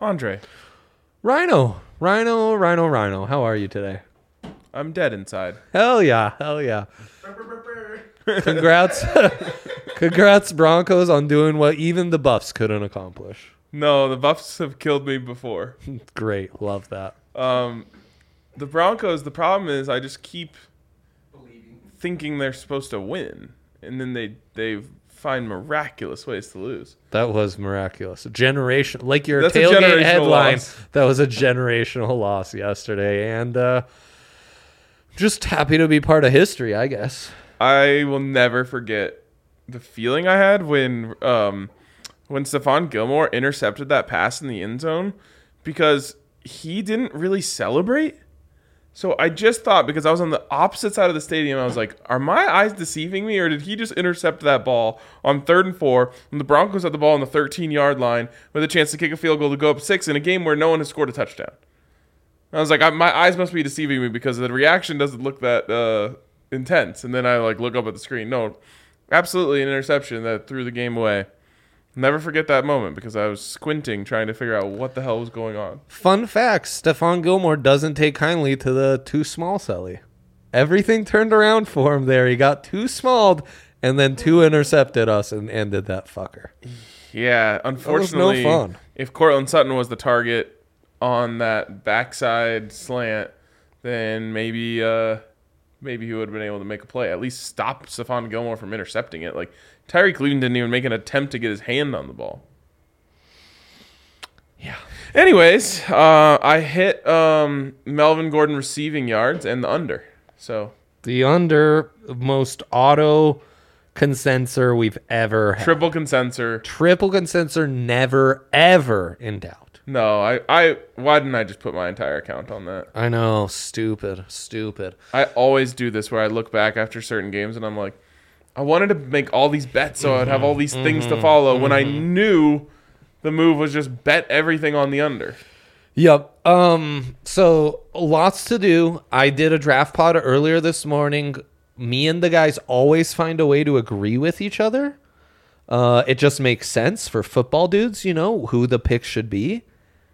Andre. Rhino. How are you today? I'm dead inside. Hell yeah. Congrats. Congrats, Broncos, on doing what even the Buffs couldn't accomplish. No, the Buffs have killed me before. Great. Love that. The Broncos, the problem is I just keep thinking they're supposed to win. And then they find miraculous ways to lose. That was miraculous. Generation, like your That's a tailgate generational headline. loss. That was a generational loss yesterday, and just happy to be part of history, I guess. I will never forget the feeling I had when Stephon Gilmore intercepted that pass in the end zone because he didn't really celebrate. So I just thought, because I was on the opposite side of the stadium, I was like, are my eyes deceiving me, or did he just intercept that ball on 3rd and 4 when the Broncos had the ball on the 13-yard line with a chance to kick a field goal to go up 6 in a game where no one has scored a touchdown? I was like, my eyes must be deceiving me because the reaction doesn't look that intense. And then I look up at the screen. No, absolutely an interception that threw the game away. Never forget that moment because I was squinting trying to figure out what the hell was going on. Fun fact, Stephon Gilmore doesn't take kindly to the too small celly. Everything turned around for him there. He got too smalled and then two intercepted us and ended that fucker. Yeah, unfortunately, no fun. If Cortland Sutton was the target on that backside slant, then maybe he would have been able to make a play. At least stop Stephon Gilmore from intercepting it. Like, Tyreek Cleveland didn't even make an attempt to get his hand on the ball. Yeah. Anyways, I hit Melvin Gordon receiving yards and the under. So The under most auto consensor we've ever had. triple consensor. Triple consensor, never, ever in doubt. No, I why didn't I just put my entire account on that? I know. Stupid. I always do this where I look back after certain games and I'm like, I wanted to make all these bets so I'd have all these things to follow when I knew the move was just bet everything on the under. Yep. So lots to do. I did a draft pod earlier this morning. Me and the guys always find a way to agree with each other. It just makes sense for football dudes, who the pick should be.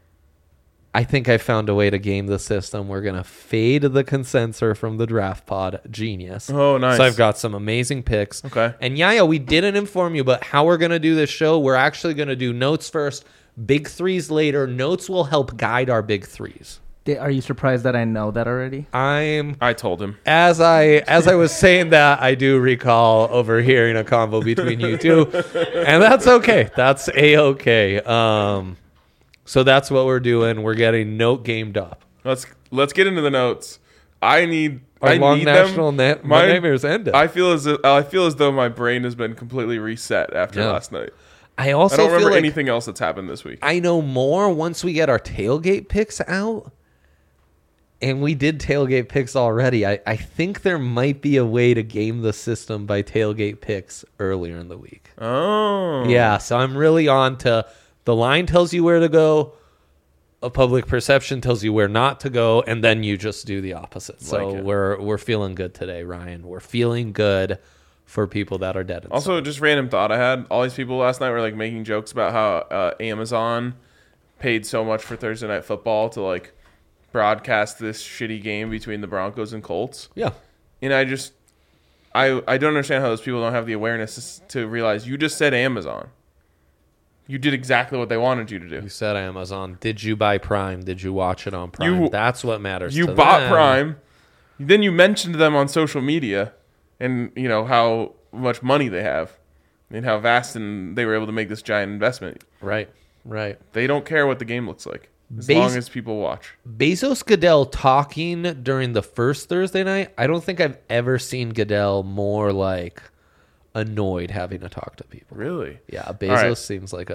I think I found a way to game the system. We're going to fade the consensor from the draft pod. Genius. Oh, nice. So I've got some amazing picks. Okay. And Yaya, we didn't inform you, but how we're going to do this show, we're actually going to do notes first, big threes later. Notes will help guide our big threes. Are you surprised that I know that already? I told him. As I was saying that, I do recall overhearing a convo between you two, and that's okay. That's a-okay. So that's what we're doing. We're getting note gamed up. Let's get into the notes. I need national them. My nightmares ended. I feel as though my brain has been completely reset after last night. I also I don't feel remember like anything else that's happened this week. I know more once we get our tailgate picks out. And we did tailgate picks already. I think there might be a way to game the system by tailgate picks earlier in the week. Oh. Yeah, so I'm really on to the line tells you where to go, a public perception tells you where not to go, and then you just do the opposite. So we're feeling good today, Ryan. We're feeling good for people that are dead inside. Also, just random thought I had. All these people last night were making jokes about how Amazon paid so much for Thursday Night Football to broadcast this shitty game between the Broncos and Colts. Yeah. And I don't understand how those people don't have the awareness to realize you just said Amazon. You did exactly what they wanted you to do. You said Amazon. Did you buy Prime? Did you watch it on Prime? That's what matters. You bought Prime. Then you mentioned them on social media and how much money they have and how vast and they were able to make this giant investment. Right. They don't care what the game looks like as long as people watch. Bezos Goodell talking during the first Thursday night. I don't think I've ever seen Goodell more annoyed having to talk to people. Really? Yeah, Bezos seems like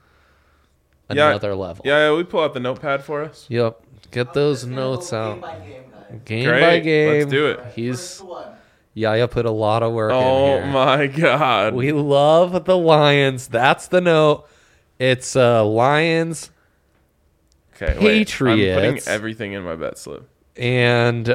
another level. Yeah, we pull out the notepad for us. Yep. Get those notes out. Game Great. by game. Let's do it. Yaya put a lot of work in Oh here. my God. We love the Lions. That's the note. It's Lions. Okay, Patriots. I'm putting everything in my bet slip. And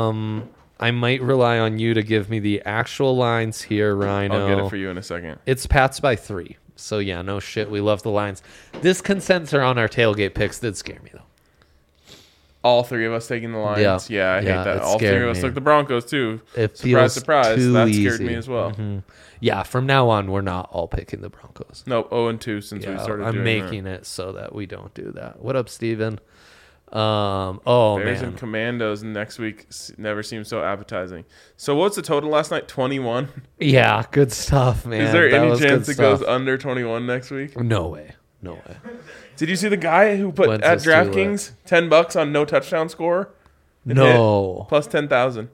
I might rely on you to give me the actual lines here, Rhino. I'll get it for you in a second. It's Pats by 3. So yeah, no shit. We love the Lions. This consensus on our tailgate picks did scare me though. All three of us taking the Lions. Yeah, I hate that. it All three scared of us me. took the Broncos too. It Surprise, feels surprise. too That easy. scared me as well. Yeah, from now on, we're not all picking the Broncos. Nope, 0-2 since we Yeah, started I'm doing making it so that we don't do that. What up, Steven? Oh Bears man, and Commandos next week never seems so appetizing. So what's the total last night? 21? yeah, good stuff, man. Is there That any was chance good it goes stuff. under 21 next week? No way. No way. Did you see the guy who put When's at this too DraftKings $10 on no touchdown score? It No. hit, plus 10,000.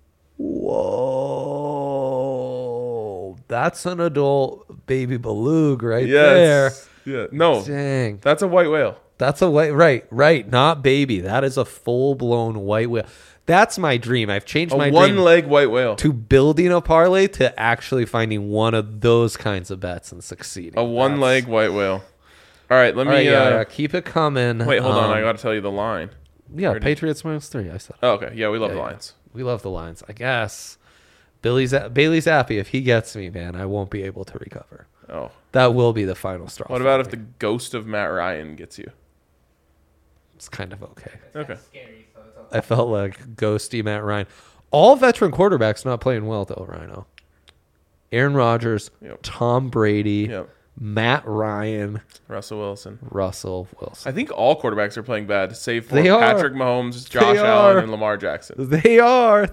Whoa. That's an adult baby beluga right Yes. Yeah. No, there. Dang. that's a white whale. That's a white, right. Not baby. That is a full-blown white whale. That's my dream. I've changed A my dream one-leg white whale. to building a parlay to actually finding one of those kinds of bets and succeeding. A one-leg white whale. All right, let me. All right, yeah, keep it coming. Wait, hold on. I got to tell you the line. Yeah, Patriots -3. I said. Oh, okay. Yeah, we love the Yeah. Lions. We love the Lions. I guess Bailey's happy. If he gets me, man, I won't be able to recover. Oh. That will be the final straw. What for about me. if the ghost of Matt Ryan gets you? It's kind of okay. Okay. I felt like ghosty Matt Ryan. All veteran quarterbacks not playing well though, Rhino. Aaron Rodgers, Yep. Tom Brady, Yep. Matt Ryan, Russell Wilson. Russell Wilson. I think all quarterbacks are playing bad, save for They are. Patrick Mahomes, Josh They Allen, are. and Lamar Jackson. They are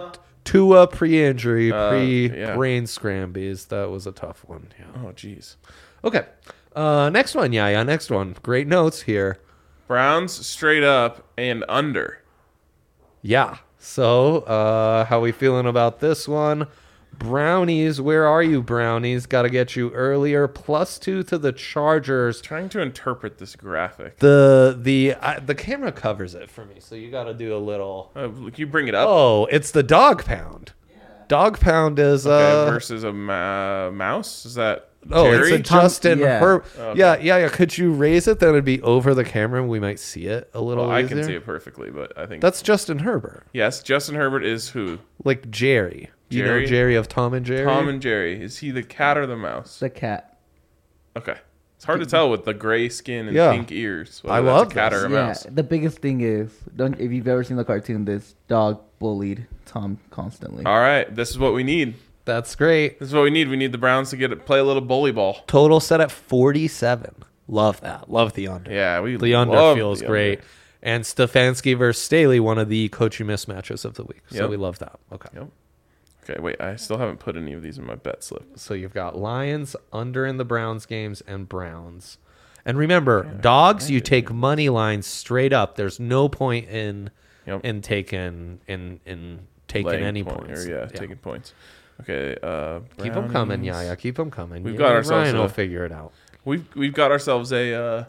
Tua pre-injury, Yeah. pre-brain scrambies. That was a tough one. Yeah. Oh, jeez. Okay. Next one, yeah. Next one. Great notes here. Browns straight up and under. Yeah. So, how we feeling about this one? Brownies, where are you, Brownies? Got to get you earlier. +2 to the Chargers. Trying to interpret this graphic. The camera covers it for me, so you got to do a little. Can you bring it up? Oh, it's the dog pound. Dog pound is Okay, versus a mouse? Is that oh, Jerry? it's a Justin Yeah. Herb. Okay. Yeah. Could you raise it? Then it'd be over the camera, and we might see it a little. Well, I easier. can see it perfectly, but I think That's Justin Herbert, yes. Justin Herbert is who? like Jerry. You know Jerry? Jerry of Tom and Jerry. Tom and Jerry. Is he the cat or the mouse? The cat. Okay, it's hard to tell with the gray skin and Yeah. pink ears. I Whether love that's a cat this. or a Yeah, mouse. the biggest thing is, if you've ever seen the cartoon, this dog bullied Tom constantly. All right, this is what we need. That's great. This is what we need. We need the Browns to play a little bully ball. Total set at 47. Love that. Love the under. Yeah, we The under love feels the great. under. And Stefanski versus Staley, one of the coaching mismatches of the week. So Yep. we love that. Okay. Yep. Okay, wait. I still haven't put any of these in my bet slip. So you've got Lions under in the Browns games and Browns. And remember, dogs, you take money lines straight up. There's no point in Yep. taking Laying any point, points. or, yeah, taking points. Okay. Keep them coming, Brownies. yeah. Keep them coming. We've You got and ourselves Ryan will a- figure it out. We've got ourselves a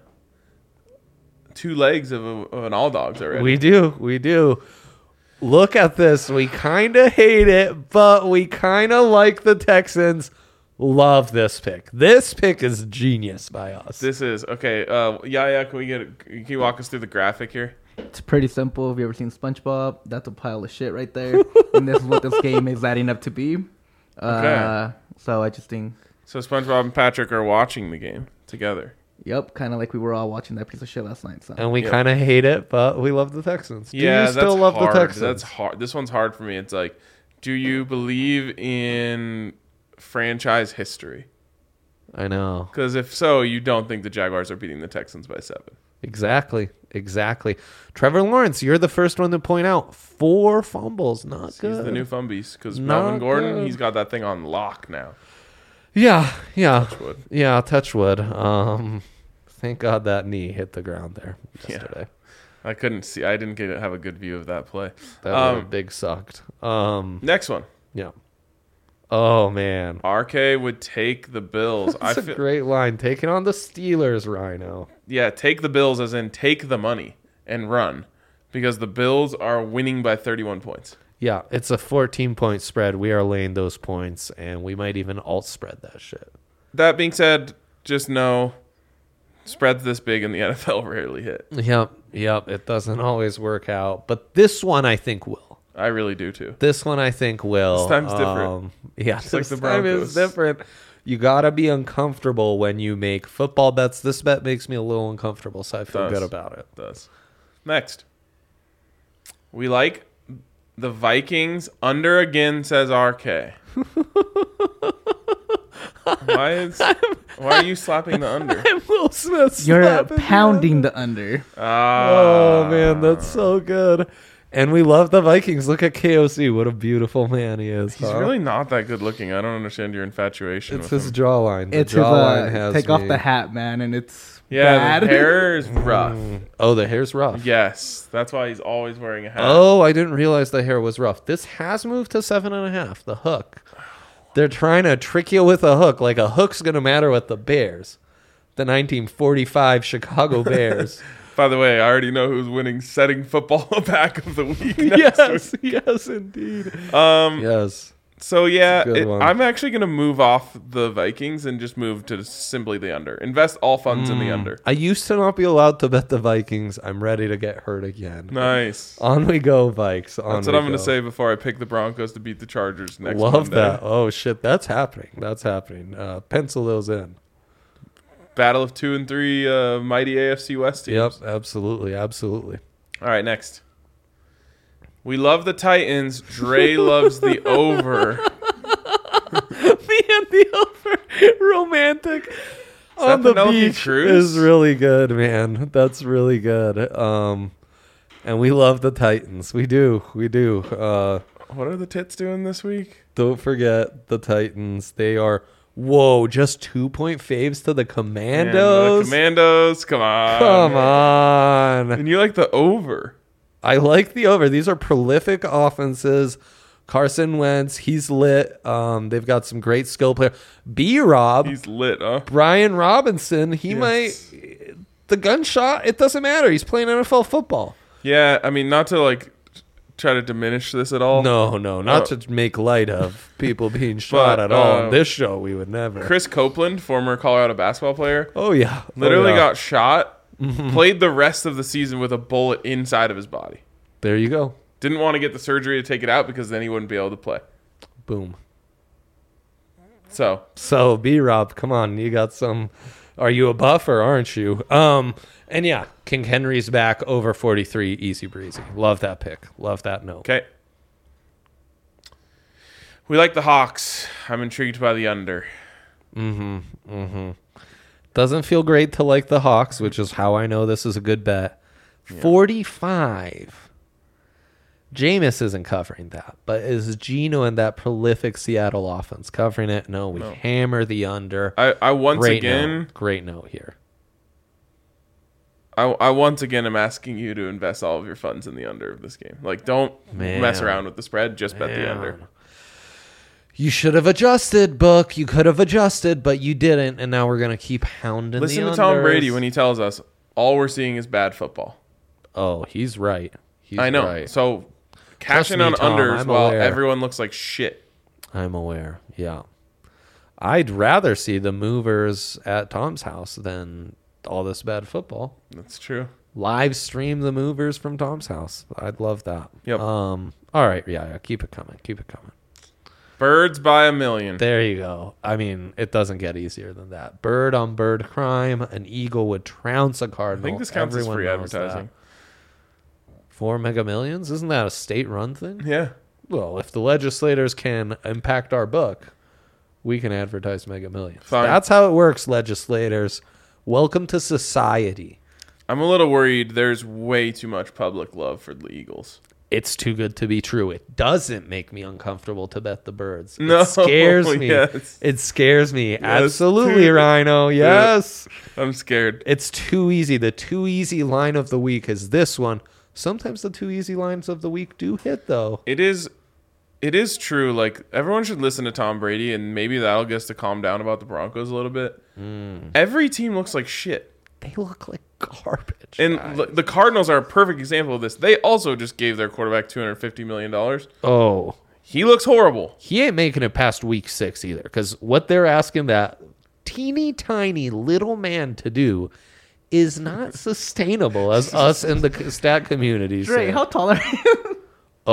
2 legs of an all dogs already. We do. Look at this. We kind of hate it, but we kind of like the Texans. Love this pick. This pick is genius by us. This is okay. Yeah. Can you walk us through the graphic here? It's pretty simple. Have you ever seen SpongeBob? That's a pile of shit right there. And this is what this game is adding up to be. Okay. So I just think, So SpongeBob and Patrick are watching the game together. yep, kind of like we were all watching that piece of shit last night. So And we Yep. kind of hate it, but we love the Texans. Do Yeah, you still that's love hard. the Texans? That's hard. This one's hard for me. It's like, do you believe in franchise history? I know. Because if so, you don't think the Jaguars are beating the Texans by 7. Exactly. Trevor Lawrence, you're the first one to point out 4 fumbles. Not good. He's the new Fumbies. Because Not Melvin Gordon, good. he's got that thing on lock now. Yeah. Touchwood. Yeah, touch wood. Thank God that knee hit the ground there yesterday. I couldn't see. I didn't have a good view of that play. That would've big sucked. Next one. Yeah. Oh man, RK would take the Bills. that's a great line. Taking on the Steelers, Rhino. Yeah, take the Bills as in take the money and run. Because the Bills are winning by 31 points. Yeah, it's a 14-point spread. We are laying those points, and we might even alt spread that shit. That being said, just know spreads this big in the NFL rarely hit. Yep. It doesn't always work out, but this one I think will. I really do too. This one I think will. This time's different. Yeah, Just like this the time is Broncos. different. You gotta be uncomfortable when you make football bets. This bet makes me a little uncomfortable, so I feel good about it. Does. Next. We like the Vikings under again, says RK. Why are you slapping the under? I'm Will Smith. You're pounding the under. Oh man, that's so good. And we love the Vikings. Look at KOC. What a beautiful man he is. He's really not that good looking. I don't understand your infatuation It's with his him. jawline. The It's his, jawline has take me. off the hat, man, and it's Yeah, bad. the hair is rough. Oh, the hair's rough. Yes, that's why he's always wearing a hat. Oh, I didn't realize the hair was rough. This has moved to 7.5. The hook. They're trying to trick you with a hook. Like a hook's gonna matter with the Bears, the 1945 Chicago Bears. By the way, I already know who's winning setting football back of the week. Next week. yes, indeed. Yes. So yeah, It's a good one. I'm actually gonna move off the Vikings and just move to simply the under. Invest all funds in the under. I used to not be allowed to bet the Vikings. I'm ready to get hurt again. Nice. On we go, Vikes. On That's what we I'm gonna go. say before I pick the Broncos to beat the Chargers next Love Monday. that. Oh shit, that's happening. That's happening. Pencil those in. Battle of 2 and 3 mighty AFC West teams. Yep, absolutely, absolutely. All right, next. We love the Titans. Dre loves the over. Me and the over romantic on the Penelope beach Cruz? is really good, man. That's really good. And we love the Titans. We do. What are the tits doing this week? Don't forget the Titans. They are just 2-point faves to the Man, Commandos. the Commandos, come on. Come man. on. And you like the over. I like the over. These are prolific offenses. Carson Wentz, he's lit. They've got some great skill players. B-Rob, He's lit, huh? Brian Robinson, he Yes. might. The gunshot, it doesn't matter. He's playing NFL football. Yeah, I mean, not to like try to diminish this at all. No, not to make light of people being shot But, at all. On this show, we would never. Chris Copeland, former Colorado basketball player, Oh, yeah. literally Oh, yeah. got shot, played the rest of the season with a bullet inside of his body. There you go. Didn't want to get the surgery to take it out because then he wouldn't be able to play. Boom. So, B-Rob, come on. You got some. Are you a buff or aren't you? And yeah, King Henry's back over 43, easy breezy. Love that pick. Love that note. okay. We like the Hawks. I'm intrigued by the under. Doesn't feel great to like the Hawks, which is how I know this is a good bet. 45. Jameis isn't covering that, but is Geno and that prolific Seattle offense covering it? No, we hammer the under. I once Great again note. Great note here. I once again am asking you to invest all of your funds in the under of this game. Like, don't mess around with the spread. Just bet the under. You should have adjusted, Book. You could have adjusted, but you didn't, and now we're going to keep hounding Listen the to Tom unders. Brady when he tells us all we're seeing is bad football. Oh, he's right. I know. Right. So cash in me, on Tom, unders I'm while aware. everyone looks like shit. I'm aware. Yeah. I'd rather see the movers at Tom's house than all this bad football. That's true. Live stream the movers from Tom's house. I'd love that. Yep. All right. Yeah. Keep it coming. Keep it coming. Birds by a million. There you go. I mean, it doesn't get easier than that. Bird on bird crime. An eagle would trounce a I cardinal. think this counts Everyone as free knows advertising. that. 4 Mega Millions? Isn't that a state-run thing? Yeah. Well, if the legislators can impact our book, we can advertise Mega Millions. Fine. That's how it works, legislators. Welcome to society. I'm a little worried there's way too much public love for the Eagles. It's too good to be true. It doesn't make me uncomfortable to bet the birds. No, It scares me. yes. It scares me. Yes, Absolutely, too- Rhino. Yes. I'm scared. It's too easy. The too easy line of the week is this one. Sometimes the too easy lines of the week do hit, though. It is true. Like, everyone should listen to Tom Brady, and maybe that'll get us to calm down about the Broncos a little bit. Every team looks like shit. They look like garbage. And guys. the Cardinals are a perfect example of this. They also just gave their quarterback $250 million. Oh. He looks horrible. He ain't making it past week 6 either, because what they're asking that teeny tiny little man to do is not sustainable, as us in the stat community Dre, say. how tall are you?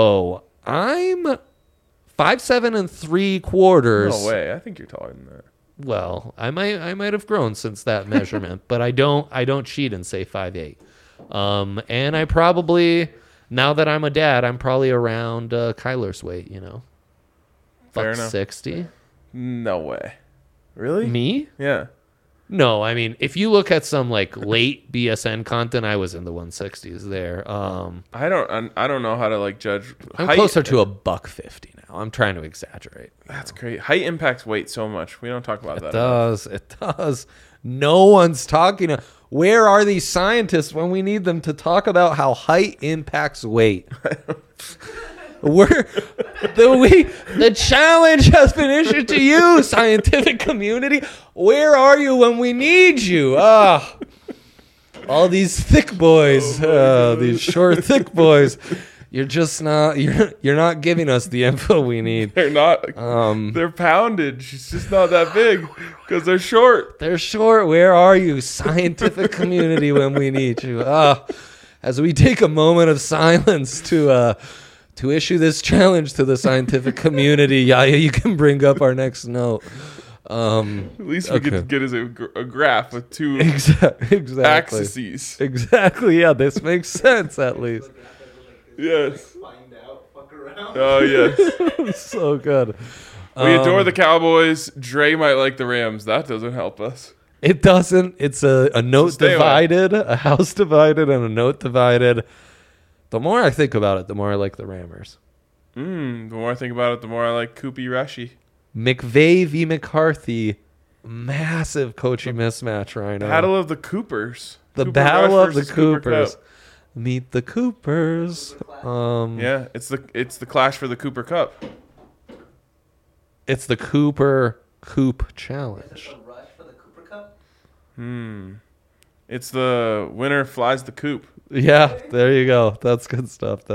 Oh, I'm 5'7" and 3/4. No way. I think you're taller than that. Well, I might have grown since that measurement, but I don't cheat and say 5'8". And I probably, now that I'm a dad, I'm probably around Kyler's weight, Fair Buck enough. 60. No way. Really? Me? Yeah. No, I mean, if you look at some like late BSN content, I was in the 160s there. I don't know how to like judge. I'm height. closer to a buck 50 now. I'm trying to exaggerate. That's great. Height impacts weight so much. We don't talk about that. It does. No one's talking. Where are these scientists when we need them to talk about how height impacts weight? The challenge has been issued to you, scientific community. Where are you when we need you? All these thick boys, these short, thick boys. You're just not. You're not giving us the info we need. They're not. They're poundage. It's just not that big because they're short. They're short. Where are you, scientific community, when we need you? As we take a moment of silence to issue this challenge to the scientific community, Yaya, you can bring up our next note. At least we get us a graph with two Exactly. axes. Exactly. Yeah, this makes sense at least. Yes. Find out, fuck around. Oh yes. So good. We adore the Cowboys. Dre might like the Rams. That doesn't help us. It doesn't. It's a note stay away. divided, a house divided, and a note divided. The more I think about it, the more I like the Rammers. The more I think about it, the more I like Koopy Rashi. McVay v. McCarthy. Massive coaching mismatch right now. Battle of the Coopers. The Cooper Battle Rush of the versus Cooper Coopers. Kupp. Meet the Coopers. Yeah, it's the clash for the Cooper Cup. It's the Cooper Coop Challenge. A rush for the Cooper Cup? It's the winner flies the coop. Yeah, there you go. That's good stuff.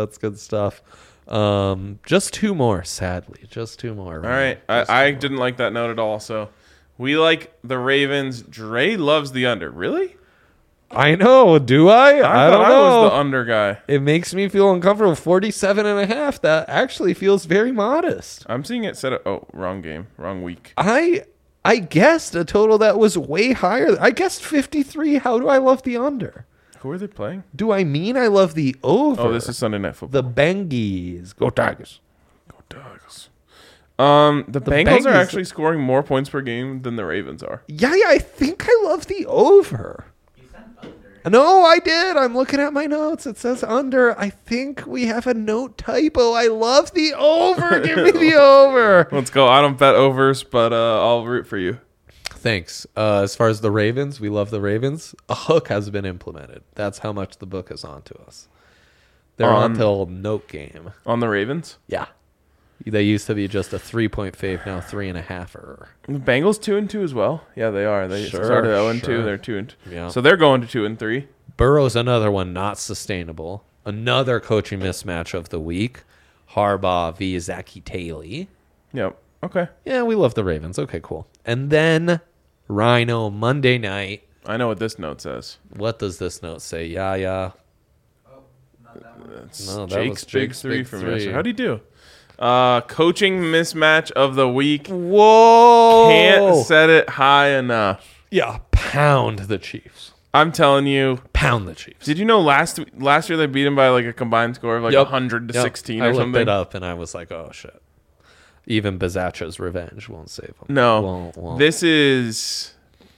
Just two more, sadly. Just two more. All right. I didn't like that note at all. So we like the Ravens. Dre loves the under. Really? I know. Do I? I don't thought know. I was the under guy. It makes me feel uncomfortable. 47.5. That actually feels very modest. I'm seeing it set up. Oh, wrong game. Wrong week. I guessed a total that was way higher. I guessed 53. How do I love the under? Who are they playing? Do I mean I love the over? Oh, this is Sunday Night Football. the Bengies. Go Tigers. Go Dogs. The Bengals are Bengals- actually scoring more points per game than the Ravens are. Yeah, I think I love the over. You sound under. No, I did. I'm looking at my notes. It says under. I think we have a note typo. I love the over. Give me the over. Let's go. I don't bet overs, but I'll root for you. Thanks. As far as the Ravens, we love the Ravens. A hook has been implemented. That's how much the book is on to us. They're on till note game. On the Ravens? Yeah. They used to be just a 3-point fave, now 3.5-er. The Bengals 2-2 as well. Yeah, they are. They Sure, started 0-2. sure. They're 2-2. Yeah. So they're going to 2-3. Burrow's another one not sustainable. Another coaching mismatch of the week. Harbaugh v. Zachy Taylor. Yep. Okay. Yeah, we love the Ravens. Okay, cool. And then Rhino Monday night. I know what this note says. What does this note say? Yeah. Oh, not that one. That's No, that Jake's was big Jake's three big from three. yesterday. How'd he do? Coaching mismatch of the week. Whoa! Can't set it high enough. Yeah, pound the Chiefs. I'm telling you. Pound the Chiefs. Did you know last year they beat him by like a combined score of like 100 to 16 I or looked something? it up and I was like, oh shit. Even Bizacha's revenge won't save him. No. Won't. This is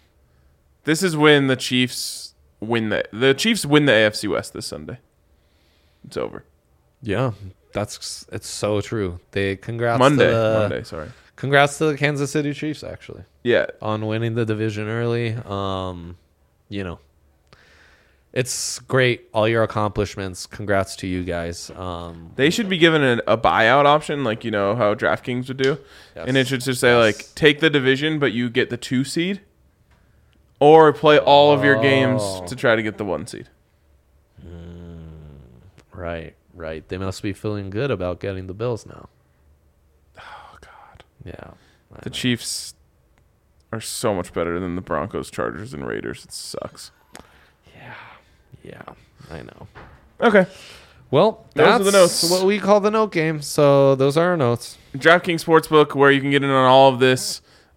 when the Chiefs win the Chiefs win the AFC West this Sunday. It's over. Yeah, it's so true. Congrats Monday, sorry. Congrats to the Kansas City Chiefs actually Yeah. on winning the division early. It's great, all your accomplishments. Congrats to you guys. They should be given a buyout option, like you know how DraftKings would do, Yes. and it should just say like take the division, but you get the 2 seed, or play all of your games to try to get the 1 seed. Right. They must be feeling good about getting the Bills now. Oh God, Yeah. the Chiefs are so much better than the Broncos, Chargers, and Raiders. It sucks. Yeah, I know. Okay, Well, Those are that's the notes. what we call the note game. So those are our notes. DraftKings Sportsbook, where you can get in on all of this.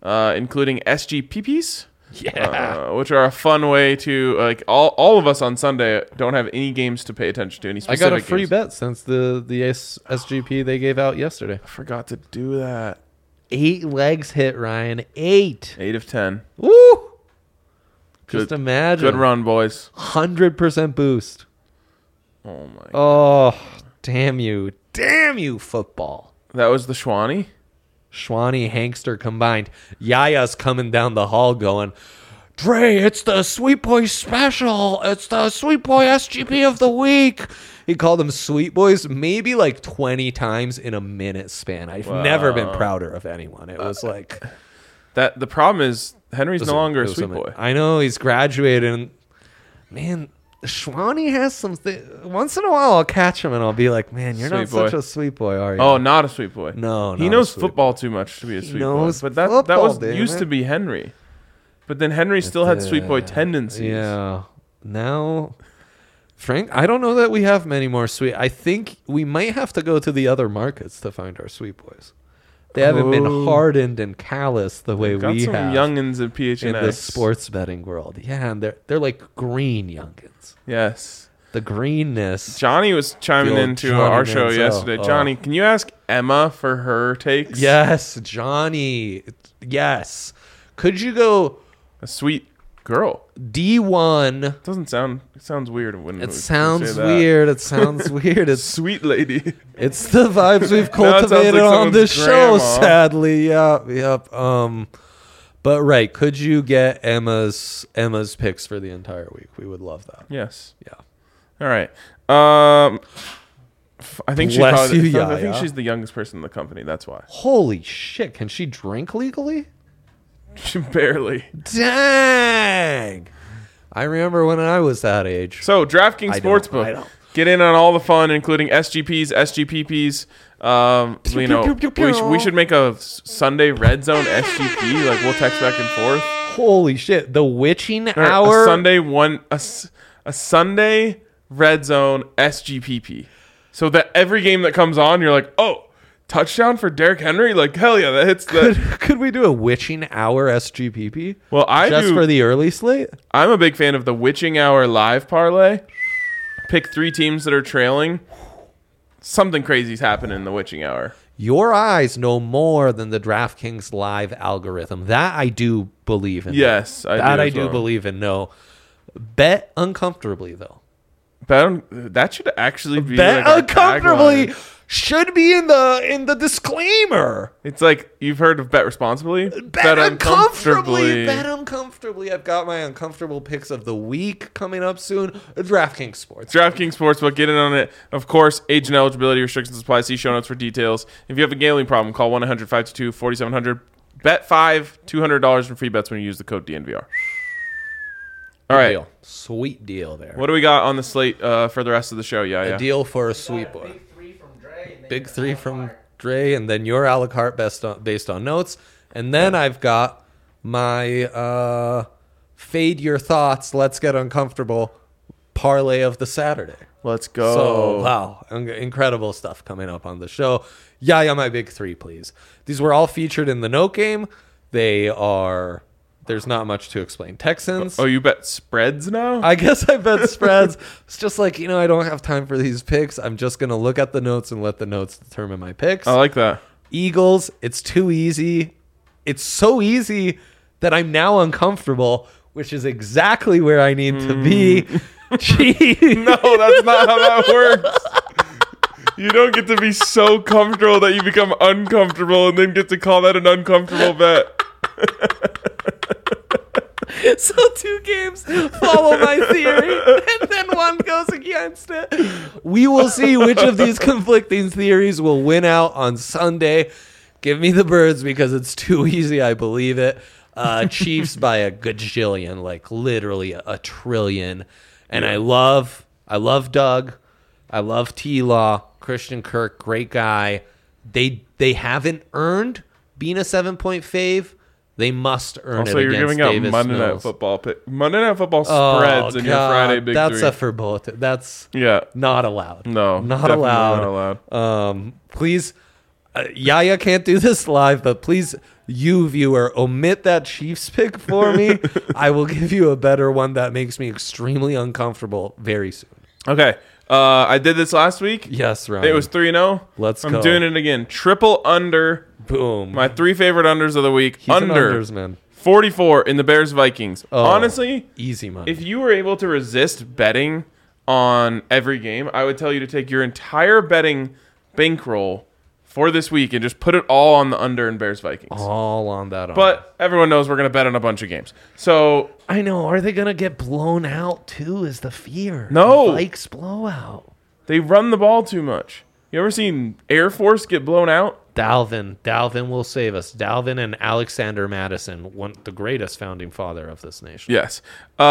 including SGPPs. Yeah. Which are a fun way to all of us on Sunday don't have any games to pay attention to. Any I specific got a free games. bet since the SGP they gave out yesterday. I forgot to do that. 8 legs hit, Ryan. 8. 8 of 10. Woo! Just Good- imagine. Good run, boys. 100% boost. Oh my! Oh, damn you. Damn you, football. That was the Schwani. Schwani, Hankster combined. Yaya's coming down the hall going, Dre, it's the Sweet Boy special. It's the Sweet Boy SGP of the week. He called them Sweet Boys maybe like 20 times in a minute span. I've never been prouder of anyone. It was like... That the problem is Henry's no longer a sweet boy. I know, he's graduated. And man, Schwani has something. Once in a while, I'll catch him and I'll be like, man, you're not Sweet boy. such a sweet boy, are you? Oh, not a sweet boy. No, he not knows a sweet football too much to be a sweet boy. knows But that football, was damn used it. to be Henry. But then Henry still had sweet boy tendencies. Yeah. Now, Frank, I don't know that we have many more sweet. I think we might have to go to the other markets to find our sweet boys. They haven't been Oh. hardened and calloused the way Got we some have youngins at PHNX. in the sports betting world. Yeah, and they're like green youngins. Yes. The greenness. Johnny was chiming The old into Johnny our show Manziel. yesterday. Oh. Johnny, can you ask Emma for her takes? Yes, Johnny. Yes. Could you go A sweet girl. D1? Doesn't sound. It sounds weird when we It say sounds that. weird. It sounds weird. It's Sweet lady. it's the vibes we've Now it sounds cultivated like on this someone's show, grandma. sadly. Yep. But right, could you get Emma's picks for the entire week? We would love that. Yes. Yeah. All right. I think Bless I you, think Yaya. she's the youngest person in the company. That's why. Holy shit! Can she drink legally? Barely. Dang! I remember when I was that age. So DraftKings I don't. Sportsbook. Get in on all the fun, including SGPs, SGPPs. We should make a Sunday Red Zone SGP. Like we'll text back and forth. Holy shit! The witching Or hour. a Sunday Red Zone SGPP. So that every game that comes on, you're like, oh, touchdown for Derrick Henry. Like hell yeah, that hits the. Could we do a witching hour SGPP? Well, Just for the early slate. I'm a big fan of the Witching Hour live parlay. Pick 3 teams that are trailing. Something crazy's happening in the Witching Hour. Your eyes know more than the DraftKings live algorithm. That I do believe in. Yes, I do do believe in. No, bet uncomfortably though. That should actually be Bet like our uncomfortably tagline. should be in the disclaimer. It's like you've heard of bet responsibly. Bet uncomfortably. Bet uncomfortably. I've got my uncomfortable picks of the week coming up soon. DraftKings Sports. DraftKings Sportsbook, get in on it. Of course, age and eligibility restrictions apply. See show notes for details. If you have a gambling problem, call 1-800-522-4700. Bet $5, $200 in free bets when you use the code DNVR. All right. Deal. Sweet deal there. What do we got on the slate for the rest of the show? Yeah. A deal for a sweet boy. Big 3 from Dre, and then your a la carte based on notes. And then I've got my fade your thoughts, let's get uncomfortable parlay of the Saturday. Let's go. So, wow, incredible stuff coming up on the show. Yeah, my big 3, please. These were all featured in the note game. There's not much to explain. Texans. Oh, you bet spreads now? I guess I bet spreads. It's just like, I don't have time for these picks. I'm just going to look at the notes and let the notes determine my picks. I like that. Eagles, it's too easy. It's so easy that I'm now uncomfortable, which is exactly where I need to be. Jeez. No, that's not how that works. You don't get to be so comfortable that you become uncomfortable and then get to call that an uncomfortable bet. So 2 games follow my theory, and then one goes against it. We will see which of these conflicting theories will win out on Sunday. Give me the birds because it's too easy. I believe it. Chiefs by a gajillion, like literally a trillion. And I love Doug. I love T-Law. Christian Kirk, great guy. They haven't earned being a 7-point fave. They must earn Also, it you're against giving out Davis Monday Night Mills. Football Monday Night Football spreads in your Friday Big That's 3. a forbidden. That's Yeah. not allowed. No. Not definitely allowed. Not allowed. Please, Yaya can't do this live, but please, you viewer, omit that Chiefs pick for me. I will give you a better one that makes me extremely uncomfortable very soon. Okay. I did this last week. Yes, Ryan. It was 3-0. Let's I'm go. doing it again. Triple under. Boom. My 3 favorite unders of the week. He's an Under unders man. 44 in the Bears Vikings. Oh, Honestly, easy money. if you were able to resist betting on every game, I would tell you to take your entire betting bankroll for this week and just put it all on the under in Bears Vikings. All on that. But everyone knows we're going to bet on a bunch of games. So I know. Are they gonna get blown out too? Is the fear? No. Vikes blowout. they run the ball too much. You ever seen Air Force get blown out? Dalvin will save us. Dalvin and Alexander Madison, the greatest founding father of this nation. Yes.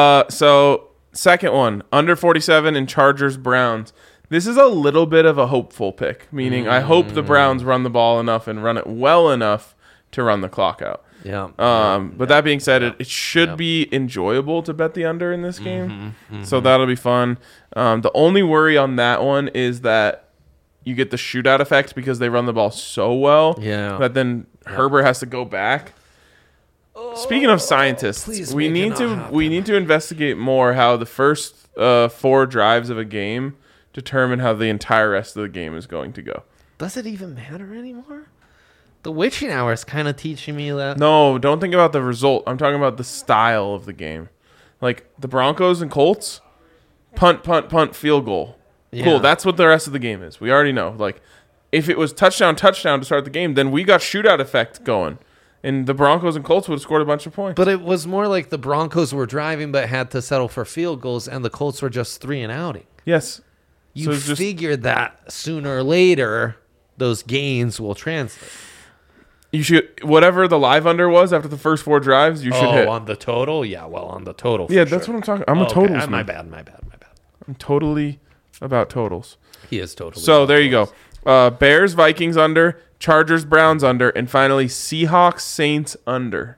So second one, under 47 in Chargers Browns. This is a little bit of a hopeful pick, meaning I hope the Browns run the ball enough and run it well enough to run the clock out. Yeah. But that being said, it should be enjoyable to bet the under in this game. So that'll be fun. The only worry on that one is that you get the shootout effect because they run the ball so well that then Herbert has to go back. Speaking of scientists, please we make it need not to happen. we need to investigate more how the first 4 drives of a game determine how the entire rest of the game is going to go. Does it even matter anymore? The witching hour is kind of teaching me that. No, don't think about the result. I'm talking about the style of the game. Like the Broncos and Colts, punt, field goal. Yeah. Cool, that's what the rest of the game is. We already know. Like if it was touchdown to start the game, then we got shootout effect going. And the Broncos and Colts would have scored a bunch of points. But it was more like the Broncos were driving but had to settle for field goals, and the Colts were just 3 and outing. Yes. You So it's just- figured that sooner or later those gains will translate. You should whatever the live under was after the first 4 drives, you should hit. On the total? Yeah, well, on the total. Yeah, that's what I'm talking. I'm a totals My man. bad. I'm totally about totals. He is totally. So there you go. Bears Vikings under, Chargers Browns under, and finally Seahawks Saints under.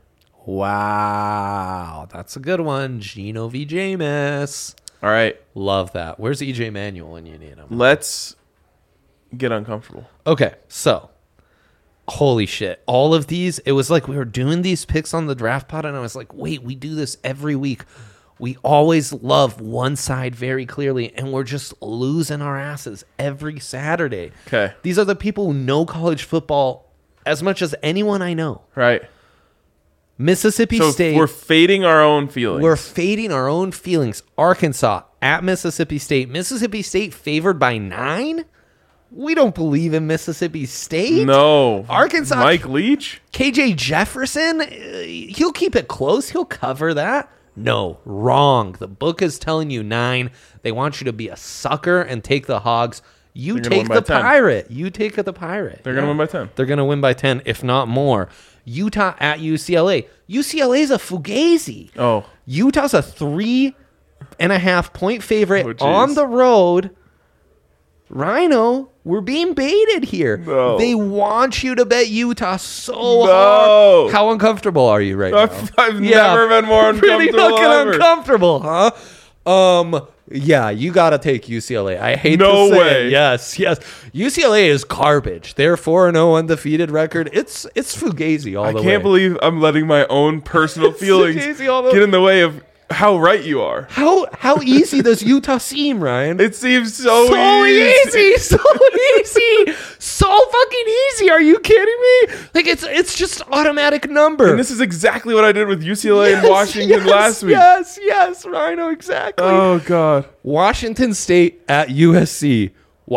Wow, that's a good one. Gino V. Jameis. All right, Love that. Where's EJ Manuel when you need him? let's get uncomfortable. Okay, so holy shit. All of these, it was like we were doing these picks on the draft pod, and I was like, wait, we do this every week. We always love one side very clearly, and we're just losing our asses every Saturday. Okay. These are the people who know college football as much as anyone I know. Right. Mississippi So State. we're fading our own feelings. We're fading our own feelings. Arkansas at Mississippi State. Mississippi State favored by 9? We don't believe in Mississippi State. no Arkansas- Mike Leach. KJ Jefferson, he'll keep it close. He'll cover that. No, wrong. The book is telling you 9. They want you to be a sucker and take the Hogs. You They're gonna take win by the 10. Pirate. You take the Pirate. They're gonna win by 10. They're going to win by 10, if not more. Utah at UCLA. UCLA's a fugazi. Oh, Utah's a 3.5 point favorite Oh, jeez. on the road. Rhino, we're being baited here. No. They want you to bet Utah so No. hard. How uncomfortable are you right now? I've never been more Pretty uncomfortable fucking ever. uncomfortable, huh? Yeah, you gotta take UCLA. I hate No to say way. it. Yes. UCLA is garbage. Their 4-0 undefeated record. It's fugazi all I the way. can't believe I'm letting my own personal feelings Fugazi all the- get in the way of how right you are. How easy does Utah seem, Ryan? It seems so easy, so fucking easy. Are you kidding me? Like it's just automatic number. And this is exactly what I did with UCLA and Washington last week. Yes, Rhino, exactly. Oh God. Washington State at USC.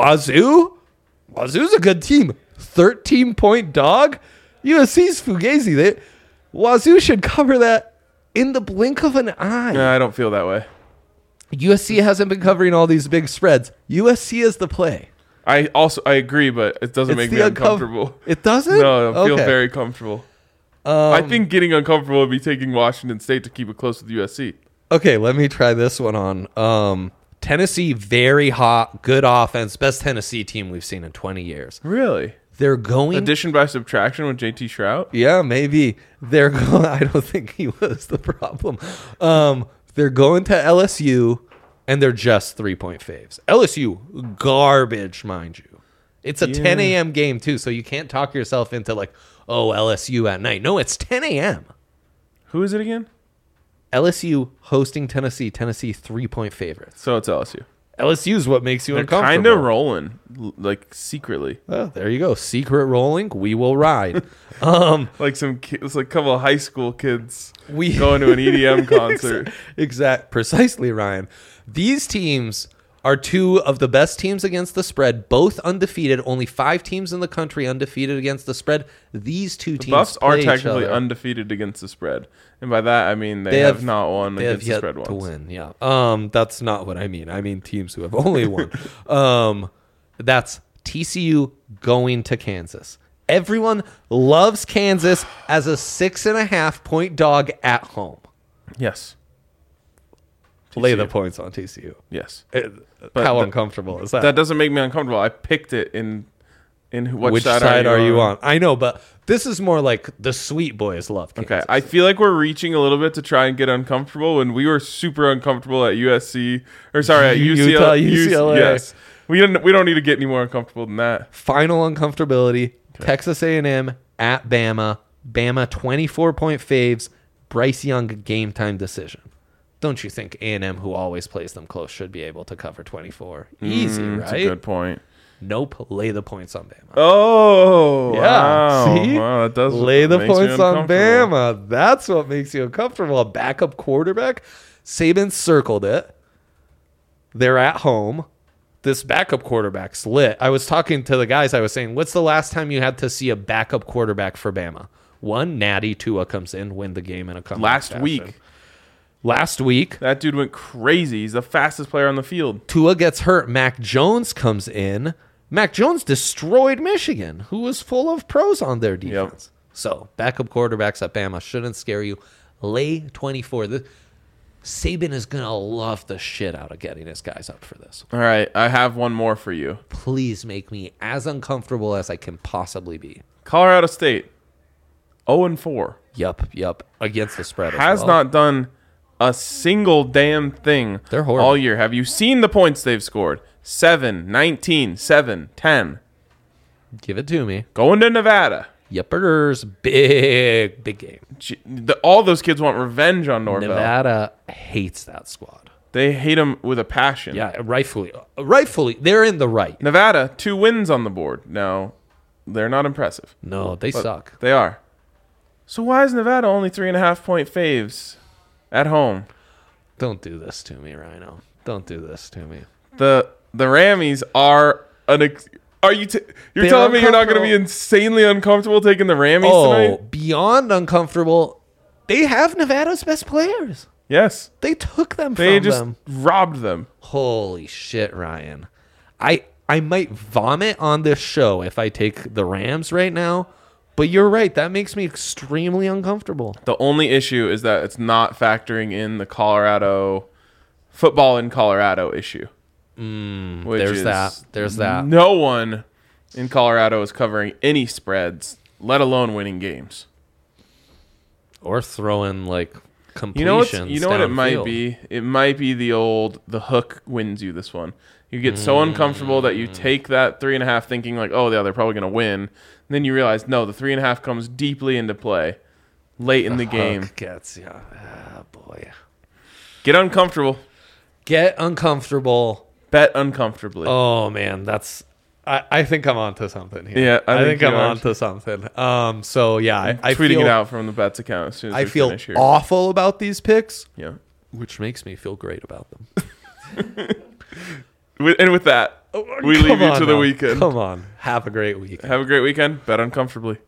Wazoo's a good team. 13-point dog. USC's fugazi. Wazoo should cover that in the blink of an eye. No, I don't feel that way. USC hasn't been covering all these big spreads. USC is the play. I agree, but it doesn't make me uncomfortable. It doesn't? No, I feel Okay. very comfortable. I think getting uncomfortable would be taking Washington State to keep it close with USC. Okay, let me try this one on. Tennessee, very hot, good offense, best Tennessee team we've seen in 20 years. Really? They're going. Addition by subtraction with JT Shrout? Yeah, maybe they're going. I don't think he was the problem. They're going to LSU, and they're just 3-point faves. LSU, garbage, mind you. It's a 10 a.m. game too, so you can't talk yourself into like, oh, LSU at night. No, it's 10 a.m. Who is it again? LSU hosting Tennessee. Tennessee 3-point favorites. So it's LSU. LSU is what makes you They're uncomfortable. kind of rolling, like secretly, Oh, there you go. Secret rolling. We will ride. like it's like a couple of high school kids We going to an EDM concert. Precisely, Ryan. These teams are two of the best teams against the spread, both undefeated. Only 5 teams in the country undefeated against the spread. These two teams Buffs are play each technically other. undefeated against the spread, and by that I mean they have not won They have against the yet spread to once. win. Yeah. That's not what I mean. I mean teams who have only won. That's TCU going to Kansas. Everyone loves Kansas as a 6.5-point dog at home. Yes, Lay the TCU. points on TCU. Yes, How uncomfortable is that? that doesn't make me uncomfortable. I picked it in Which side are you on? I know, but this is more like the sweet boys love Kansas. Okay, I feel like we're reaching a little bit to try and get uncomfortable when we were super uncomfortable at USC or sorry at Utah, UCLA. UCLA. Yes, we don't need to get any more uncomfortable than that. Final uncomfortability. Texas A&M at Bama. Bama 24-point faves. Bryce Young game time decision. Don't you think A&M, who always plays them close, should be able to cover 24? Easy, That's right? a good point. Nope. Lay the points on Bama. Oh, Yeah, wow. see? Wow, that does Lay the makes me points on uncomfortable. Bama. That's what makes you uncomfortable. A backup quarterback. Saban circled it. They're at home. This backup quarterback's lit. I was talking to the guys. I was saying, what's the last time you had to see a backup quarterback for Bama? One, Natty Tua comes in, win the game in a comeback Last fashion. week, Last week, that dude went crazy. He's the fastest player on the field. Tua gets hurt. Mac Jones comes in. Mac Jones destroyed Michigan, who was full of pros on their defense. So, backup quarterbacks at Bama shouldn't scare you. Lay 24. Saban is going to love the shit out of getting his guys up for this. All right, I have one more for you. Please make me as uncomfortable as I can possibly be. Colorado State, 0-4, Yup. Against the spread as has well. not done a single damn thing They're horrible. all year. Have you seen the points they've scored? 7, 19, 7, 10. Give it to me. Going to Nevada. Yuppers. Big game. All those kids want revenge on Norvell. Nevada hates that squad. They hate him with a passion. Yeah, rightfully. They're in the right. Nevada, 2 wins on the board. No, they're not impressive. No, they But suck. They are. So why is Nevada only 3.5-point faves at home? Don't do this to me, Rhino. Don't do this to me. The Rammies are are you you're They're telling me you're not going to be uncomfortable. insanely uncomfortable taking the Rammies tonight? Beyond uncomfortable. They have Nevada's best players. Yes. They took them They from just them. robbed them. Holy shit, Ryan. I might vomit on this show if I take the Rams right now, but you're right. That makes me extremely uncomfortable. The only issue is that it's not factoring in the Colorado football in Colorado issue. Which There's is that. There's that. No one in Colorado is covering any spreads, let alone winning games. Or throwing like You know completions. what it might downfield. be? It might be the hook wins you this one. You get so uncomfortable that you take that 3.5 thinking like, oh yeah, they're probably gonna win. And then you realize no, the 3.5 comes deeply into play late in the game. Hook gets ya. Ah, boy. Get uncomfortable. Get uncomfortable. Bet uncomfortably. Oh man, that's. I think I'm onto something here. Yeah, I think think I'm you are. onto something. So yeah, I Tweeting feel, it out from the bets account as soon as I we feel finish here. awful about these picks, Yeah. which makes me feel great about them. And with that, we Come leave you on to the now. weekend. Come on, have a great week. Have a great weekend. Bet uncomfortably.